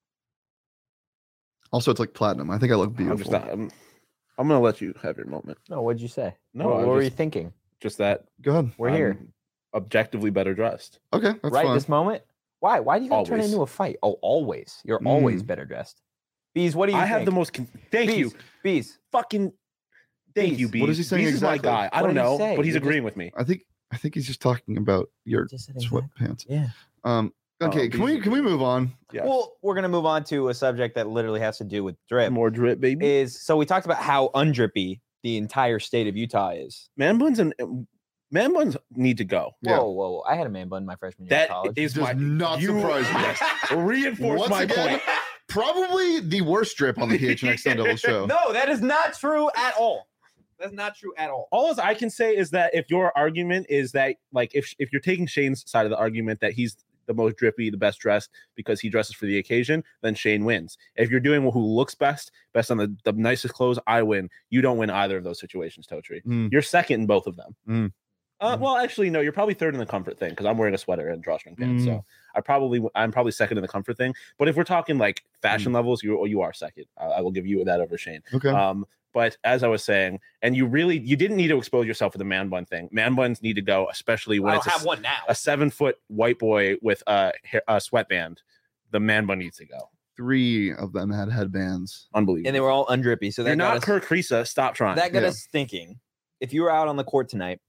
Also, it's like platinum. I think I look I'm beautiful. just, not, I'm, I'm gonna let you have your moment. No, what'd you say? No, what, I what were you just- thinking? Just that Go ahead. We're I'm here. objectively better dressed. Okay, that's right fine. this moment. Why? Why do you gotta turn it Always. into a fight? Oh, always. You're Mm. always better dressed. Bees, what do you I think? have the most. Con- thank Bees, you, Bees. fucking. Thank Bees. you, Bees. What is he saying Bees is my exactly? guy. I What don't did he know, say? but he's You're just- agreeing with me. I think I think he's just talking about your Just said exact- sweatpants. Yeah. Um. Okay. Oh, can we these- can we move on? Yeah. Well, we're gonna move on to a subject that literally has to do with drip. More drip, baby. Is so we talked about how undrippy the entire state of Utah is. Man buns and man buns need to go. Yeah. Whoa, whoa, whoa! I had a man bun my freshman year That of college. is Does my not you- surprise me. Yes. Reinforce Once my again, point. Probably the worst drip on the P H N X Sun Devil show. No, that is not true at all. That's not true at all. All I can say is that if your argument is that, like, if if you're taking Shane's side of the argument that he's the most drippy, the best dressed because he dresses for the occasion, then Shane wins. If you're doing who looks best, best on the, the nicest clothes, I win. You don't win either of those situations, Totri. Mm. You're second in both of them. Mm. Uh, Mm. well, actually, no. You're probably third in the comfort thing because I'm wearing a sweater and drawstring pants. Mm. So I probably I'm probably second in the comfort thing. But if we're talking like fashion levels, you you are second. I, I will give you that over Shane. Okay. Um, but as I was saying, and you really you didn't need to expose yourself for the man bun thing. Man buns need to go, especially when I it's don't a, have one now. a seven foot white boy with a, hair- a sweatband. The man bun needs to go. Three of them had headbands. Unbelievable. And they were all undrippy. So that You're got not us, Kirk Risa. Stop trying. that got Yeah. us thinking. If you were out on the court tonight,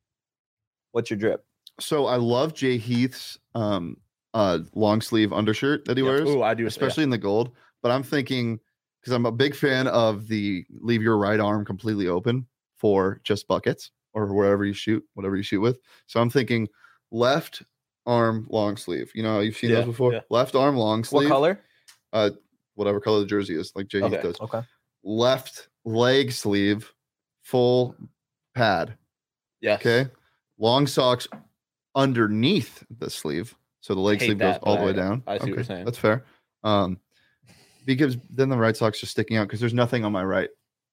what's your drip? So I love Jay Heath's um uh long sleeve undershirt that he Yeah. wears, Ooh, I do, especially in the gold. But I'm thinking because I'm a big fan of the leave your right arm completely open for just buckets or wherever you shoot, whatever you shoot with. So I'm thinking left arm long sleeve. You know, you've seen Yeah, those before. yeah. Left arm long What sleeve. color? Uh, whatever color the jersey is, like Jay Heath Okay. does. Okay. Left leg sleeve, full pad. Yes. Okay. Long socks underneath the sleeve. So the leg Hate sleeve that, goes all but the way I- down. I see what you're Okay, saying. That's fair. Um, because then the right sock's just sticking out because there's nothing on my right.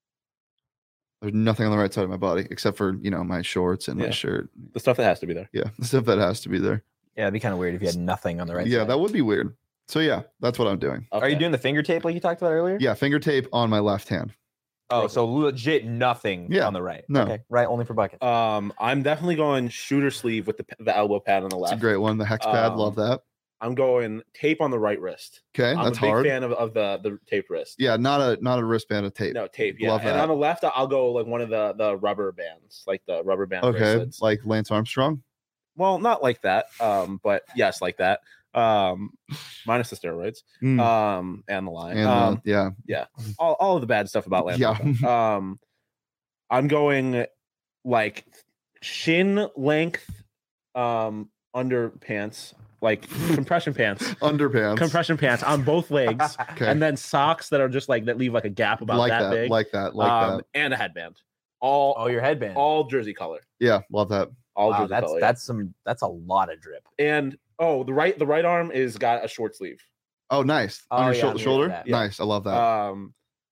There's nothing on the right side of my body except for, you know, my shorts and Yeah. my shirt. The stuff that has to be there. Yeah. The stuff that has to be there. Yeah, it'd be kind of weird if you had nothing on the right yeah, side. that would be weird. So yeah, that's what I'm doing. Are you Okay. doing the finger tape like you talked about earlier? Yeah, finger tape on my left hand. Oh, so legit nothing Yeah. on the right. No. Okay. Right, only for buckets. Um, I'm definitely going shooter sleeve with the the elbow pad on the It's left. a great one. The hex pad, Um, love that. I'm going tape on the right wrist. Okay, I'm that's a big hard. fan of, of the the taped wrist. Yeah, not a not a wristband of tape. No tape. Yeah, Love and that. on the left, I'll go like one of the the rubber bands, like the rubber band Okay, bracelets. like Lance Armstrong. Well, not like that. Um, but yes, like that. Um, minus the steroids. Mm, Um, and the line. and uh, um, yeah, all all of the bad stuff about Lance. Yeah. Armstrong. Um, I'm going like shin length, um, underpants, like compression pants. underpants. Compression pants on both legs, Okay, and then socks that are just like that leave like a gap about like that, that, big, like that, like um, that. and a headband. All oh, your headband. all jersey color, Yeah, love that. all wow, jersey that's color. yeah. that's some that's a lot of drip. And oh, the right the right arm is got a short sleeve. Oh, nice. Oh, On your yeah, shou- I'm into shoulder. that. Yeah. Nice. I love that. Um,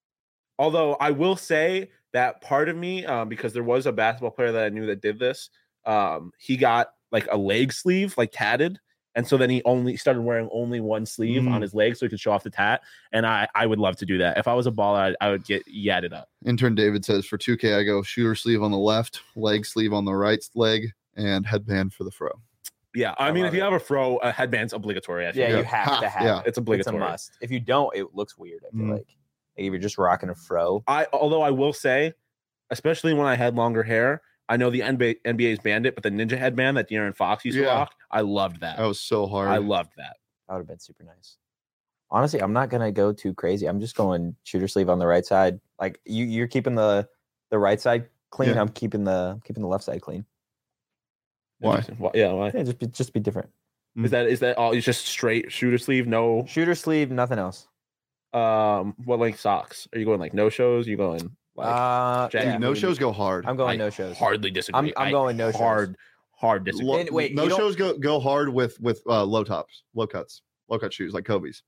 Although I will say that part of me, um, because there was a basketball player that I knew that did this, um, he got like a leg sleeve, like tatted. And so then he only started wearing only one sleeve Mm. on his leg so he could show off the tat. And I, I would love to do that. If I was a baller, I, I would get yatted up. Intern David says for two K, I go shooter sleeve on the left, leg sleeve on the right leg, and headband for the fro. Yeah. I, I mean, love if you it. have a fro, a headband's obligatory. I Yeah, think. you have Ha, to have yeah. it. It's It's a obligatory. must. If you don't, it looks weird. I feel Mm. like. like if you're just rocking a fro. I, although I will say, especially when I had longer hair, I know the N B A, N B A's banned it, but the ninja headband that De'Aaron Fox used to Yeah. rock, I loved that. That was so hard. I loved that. That would have been super nice. Honestly, I'm not gonna go too crazy. I'm just going shooter sleeve on the right side. Like you, you're keeping the the right side clean. Yeah. I'm keeping the keeping the left side clean. Why? Interesting. Why- Yeah. Why? Yeah, just be, just be different. Is that is that all? It's just straight shooter sleeve, no. Shooter sleeve, nothing else. Um, what length socks? Are you going like no shows? Are you going like? uh, Jack- yeah. Dude, no shows go hard. I'm going I no shows. Hardly disagree. I'm- I'm I going no shows. hard, hard disagree. Lo- And wait, no you don't- shows go go hard with with uh, low tops, low cuts, low cut shoes like Kobe's.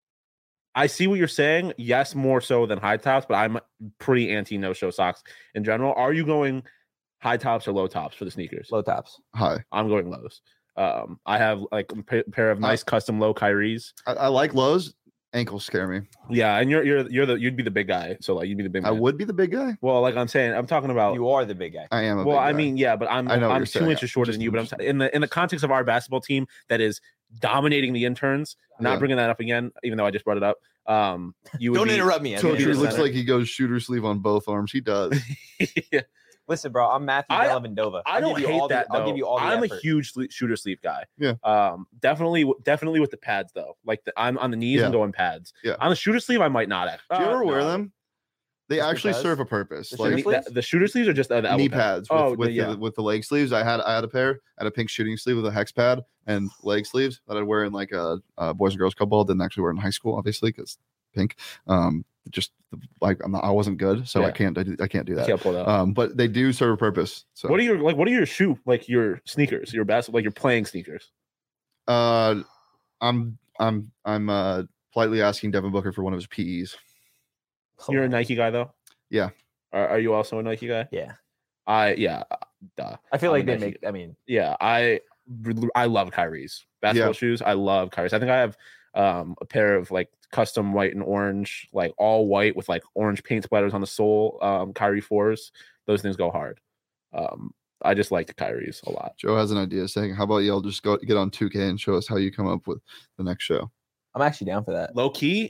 I see what you're saying. Yes, more so than high tops, but I'm pretty anti no show socks in general. Are you going high tops or low tops for the sneakers? Low tops. Hi, I'm going lows. Um, I have like a pa- pair of nice custom low Kyries. I, I like lows. Ankles scare me. Yeah, and you're you're you're the you'd be the big guy, so like you'd be the big. I man. would be the big guy. Well, like I'm saying, I'm talking about. You are the big guy. I am. A Well, big I guy. mean, yeah, but I'm I know what I'm you're two saying. inches shorter Just- than you. But I'm t- in the in the context of our basketball team that is dominating the interns. Not Yeah. bringing that up again, even though I just brought it up. Um, you would Don't be, interrupt me. So Anthony. he the looks center. like he goes shooter sleeve on both arms. He does. Yeah. Listen, bro. I'm Matthew I- Dellavedova. I I'll don't give you hate all the- that though. I'll give you all the I'm effort. a huge sle- shooter sleeve guy. Yeah. Um, definitely, definitely with the pads though. Like the, I'm on the knees Yeah. and going pads. Yeah. On the shooter sleeve, I might not. Act. Do you uh, ever wear no. them? They Just actually because? serve a purpose. The The, Like shooter sleeves? the, the shooter sleeves are just uh, the elbow knee pads. pads with, Oh, with the, yeah. the with the leg sleeves. I had I had a pair. I had a pink shooting sleeve with a hex pad and leg sleeves that I'd wear in like a, a boys and girls club ball. Didn't actually wear in high school, obviously, because pink. Um, just like I'm not, I wasn't good, so I Yeah. can't I, do- I can't do I that. can't pull that. up. Um, but they do serve a purpose. So What are your like? What are your shoe like? Your sneakers, your basketball, like your playing sneakers. uh, I'm I'm I'm uh politely asking Devin Booker for one of his P Es. You're a Nike guy though. Yeah. Are, are you also a Nike guy? Yeah. I yeah. uh, Duh. I feel I'm like a they Nike make. I mean, Yeah, I I love Kyrie's basketball Yeah. shoes. I love Kyrie's. I think I have um a pair of like custom white and orange, like all white with like orange paint splatters on the sole. Um, Kyrie fours. Those things go hard. Um, I just like the Kyrie's a lot. Joe has an idea saying, "How about y'all just go get on two K and show us how you come up with the next show?" I'm actually down for that. Low key,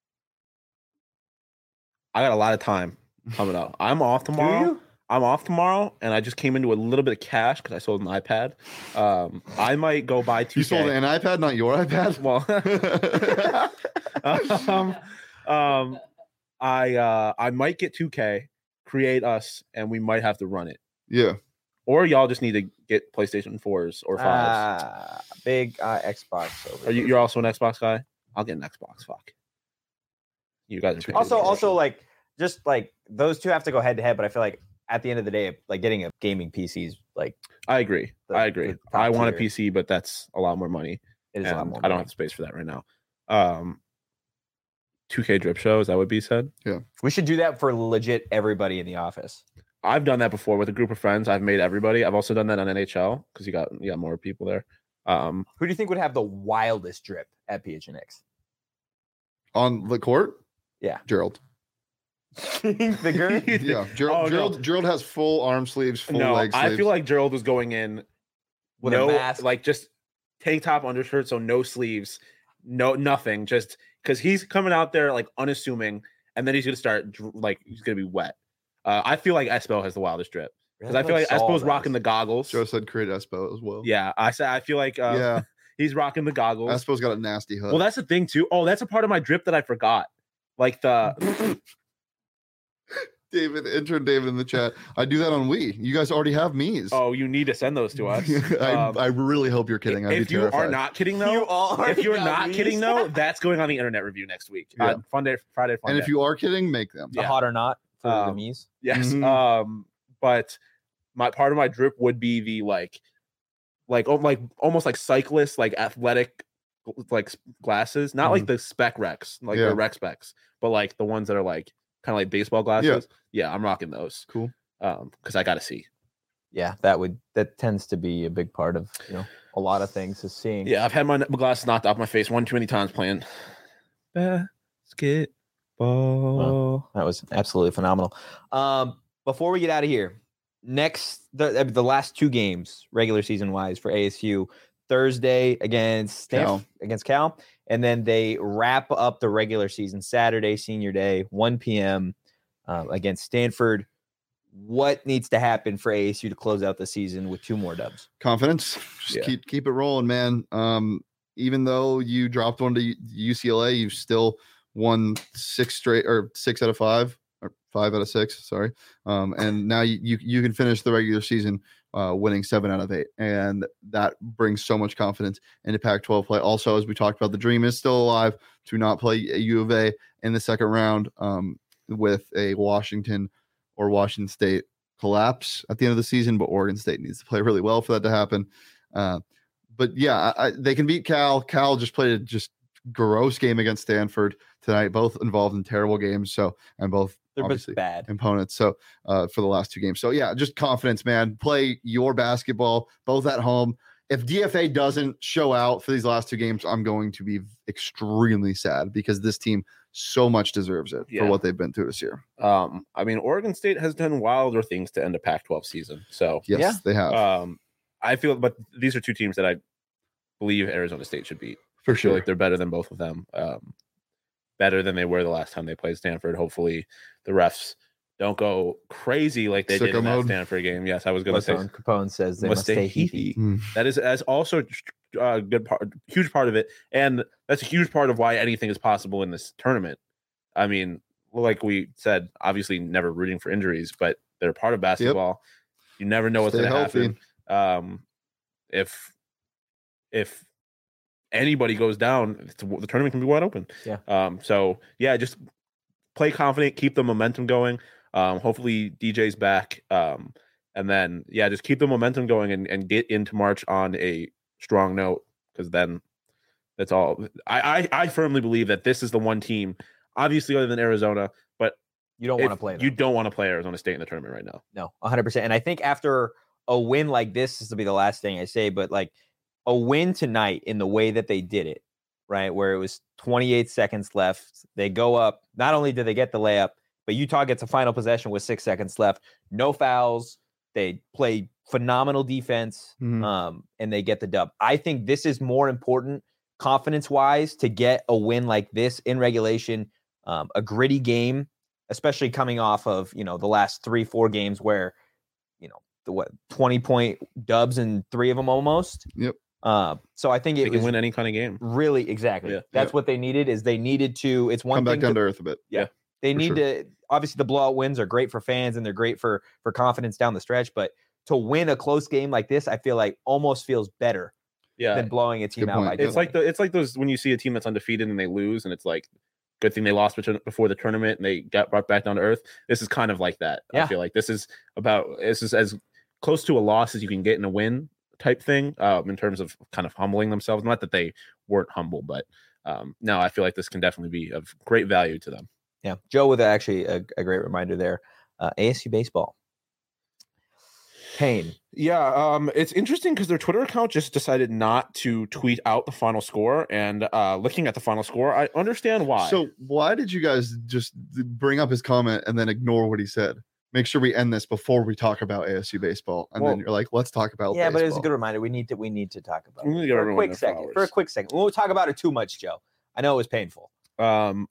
I got a lot of time coming up. I'm off tomorrow. you? I'm off tomorrow, and I just came into a little bit of cash because I sold an iPad. Um, I might go buy two. You sold an iPad, not your iPad. Well, um, um, I uh, I might get two K, create us, and we might have to run it. Yeah. Or y'all just need to get PlayStation fours or fives. Ah, big uh, Xbox. Over Are you? here. You're also an Xbox guy. I'll get an Xbox. Fuck. You guys are picking also the also direction. like just like those two have to go head to head. But I feel like at the end of the day, like getting a gaming P C is like I agree. the- I agree. the top I want a tier. P C, but that's a lot more money. it is a lot and more. I don't money. have the space for that right now. Um, two K drip show. Is that what B said? We should do that for legit everybody in the office. I've done that before with a group of friends. I've made everybody. I've also done that on N H L because you got you got more people there. Um, Who do you think would have the wildest drip at P H N X? On the court? Yeah. Gerald. the girl? Yeah. Gerald, Oh, no. Gerald, Gerald has full arm sleeves, full no, leg sleeves. I feel like Gerald was going in With a no, mask? like just tank top, undershirt, so no sleeves, no nothing, just because he's coming out there like unassuming, and then he's gonna start dr- like he's gonna be wet. Uh, I feel like Espo has the wildest drip because I feel like Espo's rocking the goggles. Joe said create Espo as well. Yeah, I said I feel like uh, Yeah. he's rocking the goggles. Espo's got a nasty hook. Well, that's the thing too. Oh, that's a part of my drip that I forgot. Like the David, intern David in the chat. I do that on Wii. You guys already have me's. oh, you need to send those to us. I, Um, I really hope you're kidding. I'd if be you terrified. are not kidding though, You all if you're got not these? kidding though, that's going on the internet review next week. Yeah. Uh, fun day, Friday, fun and day. if you are kidding, make them. the yeah. hot or not for the Um, me's. yes, Mhm. um, but my part of my drip would be the like, like oh, like almost like cyclist, like athletic, like s- glasses, not like the spec Rex, like Yeah. the Rex specs, but like the ones that are like kind of like baseball glasses. Yeah, I'm rocking those. Cool. Um, because I got to see. Yeah, that would that tends to be a big part of you know a lot of things is seeing. Yeah, I've had my glasses knocked off my face one too many times playing basketball. Wow, that was absolutely phenomenal. Um, before we get out of here, next the the last two games regular season wise for A S U, Thursday against Stanf- Cal. against Cal, and then they wrap up the regular season Saturday, Senior Day, one p.m. Uh, against Stanford. What needs to happen for A S U to close out the season with two more dubs? Confidence. Just Yeah. keep keep it rolling, man. Um, even though you dropped one to U C L A, you've still won six straight or six out of five or five out of six. Sorry. Um, and now you you, you can finish the regular season uh, winning seven out of eight, and that brings so much confidence into Pac twelve play. Also, as we talked about, the dream is still alive to not play U of A in the second round um, with a Washington or Washington State collapse at the end of the season, but Oregon State needs to play really well for that to happen. Uh, but yeah, I, I, they can beat Cal. Cal just played a just gross game against Stanford tonight, both involved in terrible games. So, and both They're both obviously bad. opponents. So, uh, for the last two games. So yeah, just confidence, man. Play your basketball, both at home. If D F A doesn't show out for these last two games, I'm going to be extremely sad because this team so much deserves it Yeah. for what they've been through this year. Um, I mean, Oregon State has done wilder things to end a Pac twelve season. So Yes, Yeah. they have. um, I feel, but these are two teams that I believe Arizona State should beat. for I feel sure. like they're better than both of them. Um, better than they were the last time they played Stanford. Hopefully, the refs don't go crazy like they did Sicko in that mode. Stanford game. Yes, I was going to say Capone, Capone says they must, stay heathy. Mm. that is as also a uh, good part, huge part of it, and that's a huge part of why anything is possible in this tournament. I mean, like we said, obviously never rooting for injuries, but they're part of basketball. You never know what's Stay going to healthy. happen. Um, if if anybody goes down, it's, the tournament can be wide open. Yeah. Um. So yeah, just play confident, keep the momentum going. Um. Hopefully D J's back. Um. And then yeah, just keep the momentum going and, and get into March on a strong note, because then that's all. I, I I firmly believe that this is the one team, obviously other than Arizona, but You don't want to if play them. you don't want to play Arizona State in the tournament right now. No, one hundred percent. And I think after a win like this, this will be the last thing I say, but like a win tonight in the way that they did it, right? Where it was twenty-eight seconds left. They go up. Not only did they get the layup, but Utah gets a final possession with six seconds left. No fouls. They play phenomenal defense, Mhm. um, and they get the dub. I think this is more important confidence-wise to get a win like this in regulation, um, a gritty game, especially coming off of, you know, the last three, four games where, you know, the what twenty point dubs in three of them almost. Yep. Uh, so I think They it can was win any kind of game. really exactly. Yeah. That's Yep. what they needed. Is they needed to. It's one Come back thing down to, to earth a bit. they for need sure. to. Obviously, the blowout wins are great for fans and they're great for for confidence down the stretch. But to win a close game like this, I feel like almost feels better Yeah. than blowing a team Good out by point. It's like twenty. the it's like those when you see a team that's undefeated and they lose, and it's like, good thing they lost bet- before the tournament and they got brought back down to earth. This is kind of like that. Yeah. I feel like this is about this is as close to a loss as you can get in a win type thing, um, in terms of kind of humbling themselves. Not that they weren't humble, but um, no, I feel like this can definitely be of great value to them. Yeah, Joe with actually a, a great reminder there. Uh, A S U baseball. Payne. Yeah, um, it's interesting because their Twitter account just decided not to tweet out the final score. And uh, looking at the final score, I understand why. So why did you guys just bring up his comment and then ignore what he said? Make sure we end this before we talk about A S U baseball, and Well, then you're like, let's talk about Yeah, but it was a baseball. good reminder. We need to we need to talk about We it need to give for a everyone quick their second. For a flowers. quick second, we won't talk about it too much, Joe. I know it was painful. Um,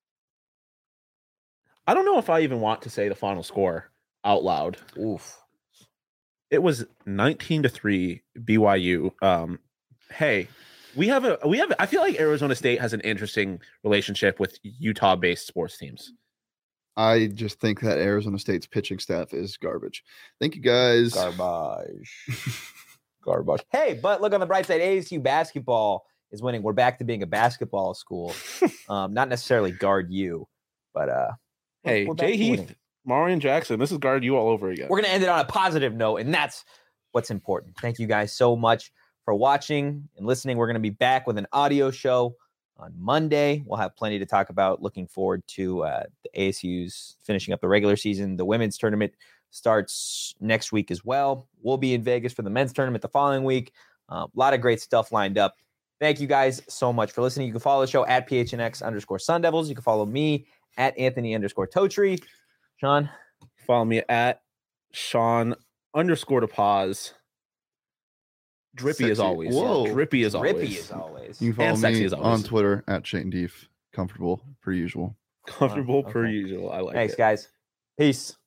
I don't know if I even want to say the final score out loud. Oof. It was nineteen to three B Y U. Um, hey, we have a we have. I feel like Arizona State has an interesting relationship with Utah-based sports teams. I just think that Arizona State's pitching staff is garbage. Thank you guys. Garbage. Garbage. Hey, but look on the bright side. A S U basketball is winning. We're back to being a basketball school. um, not necessarily guard you, but uh, we're- Hey, we're back Jay to Heath, winning. Marion Jackson, this is guard you all over again. We're going to end it on a positive note, and that's what's important. Thank you guys so much for watching and listening. We're going to be back with an audio show on Monday. We'll have plenty to talk about. Looking forward to uh, the A S U's finishing up the regular season. The women's tournament starts next week as well. We'll be in Vegas for the men's tournament the following week. Uh, a lot of great stuff lined up. Thank you guys so much for listening. You can follow the show at P H N X underscore Sun Devils. You can follow me at Anthony underscore Totri. Sean? Follow me at Sean underscore to pause. Drippy as Sexy. always. Whoa. Drippy as always. Drippy as always. You can follow And sexy me as always. on Twitter at Shane Deef. Comfortable per usual. Comfortable Wow, per okay. usual. I like Thanks, it. guys. Peace.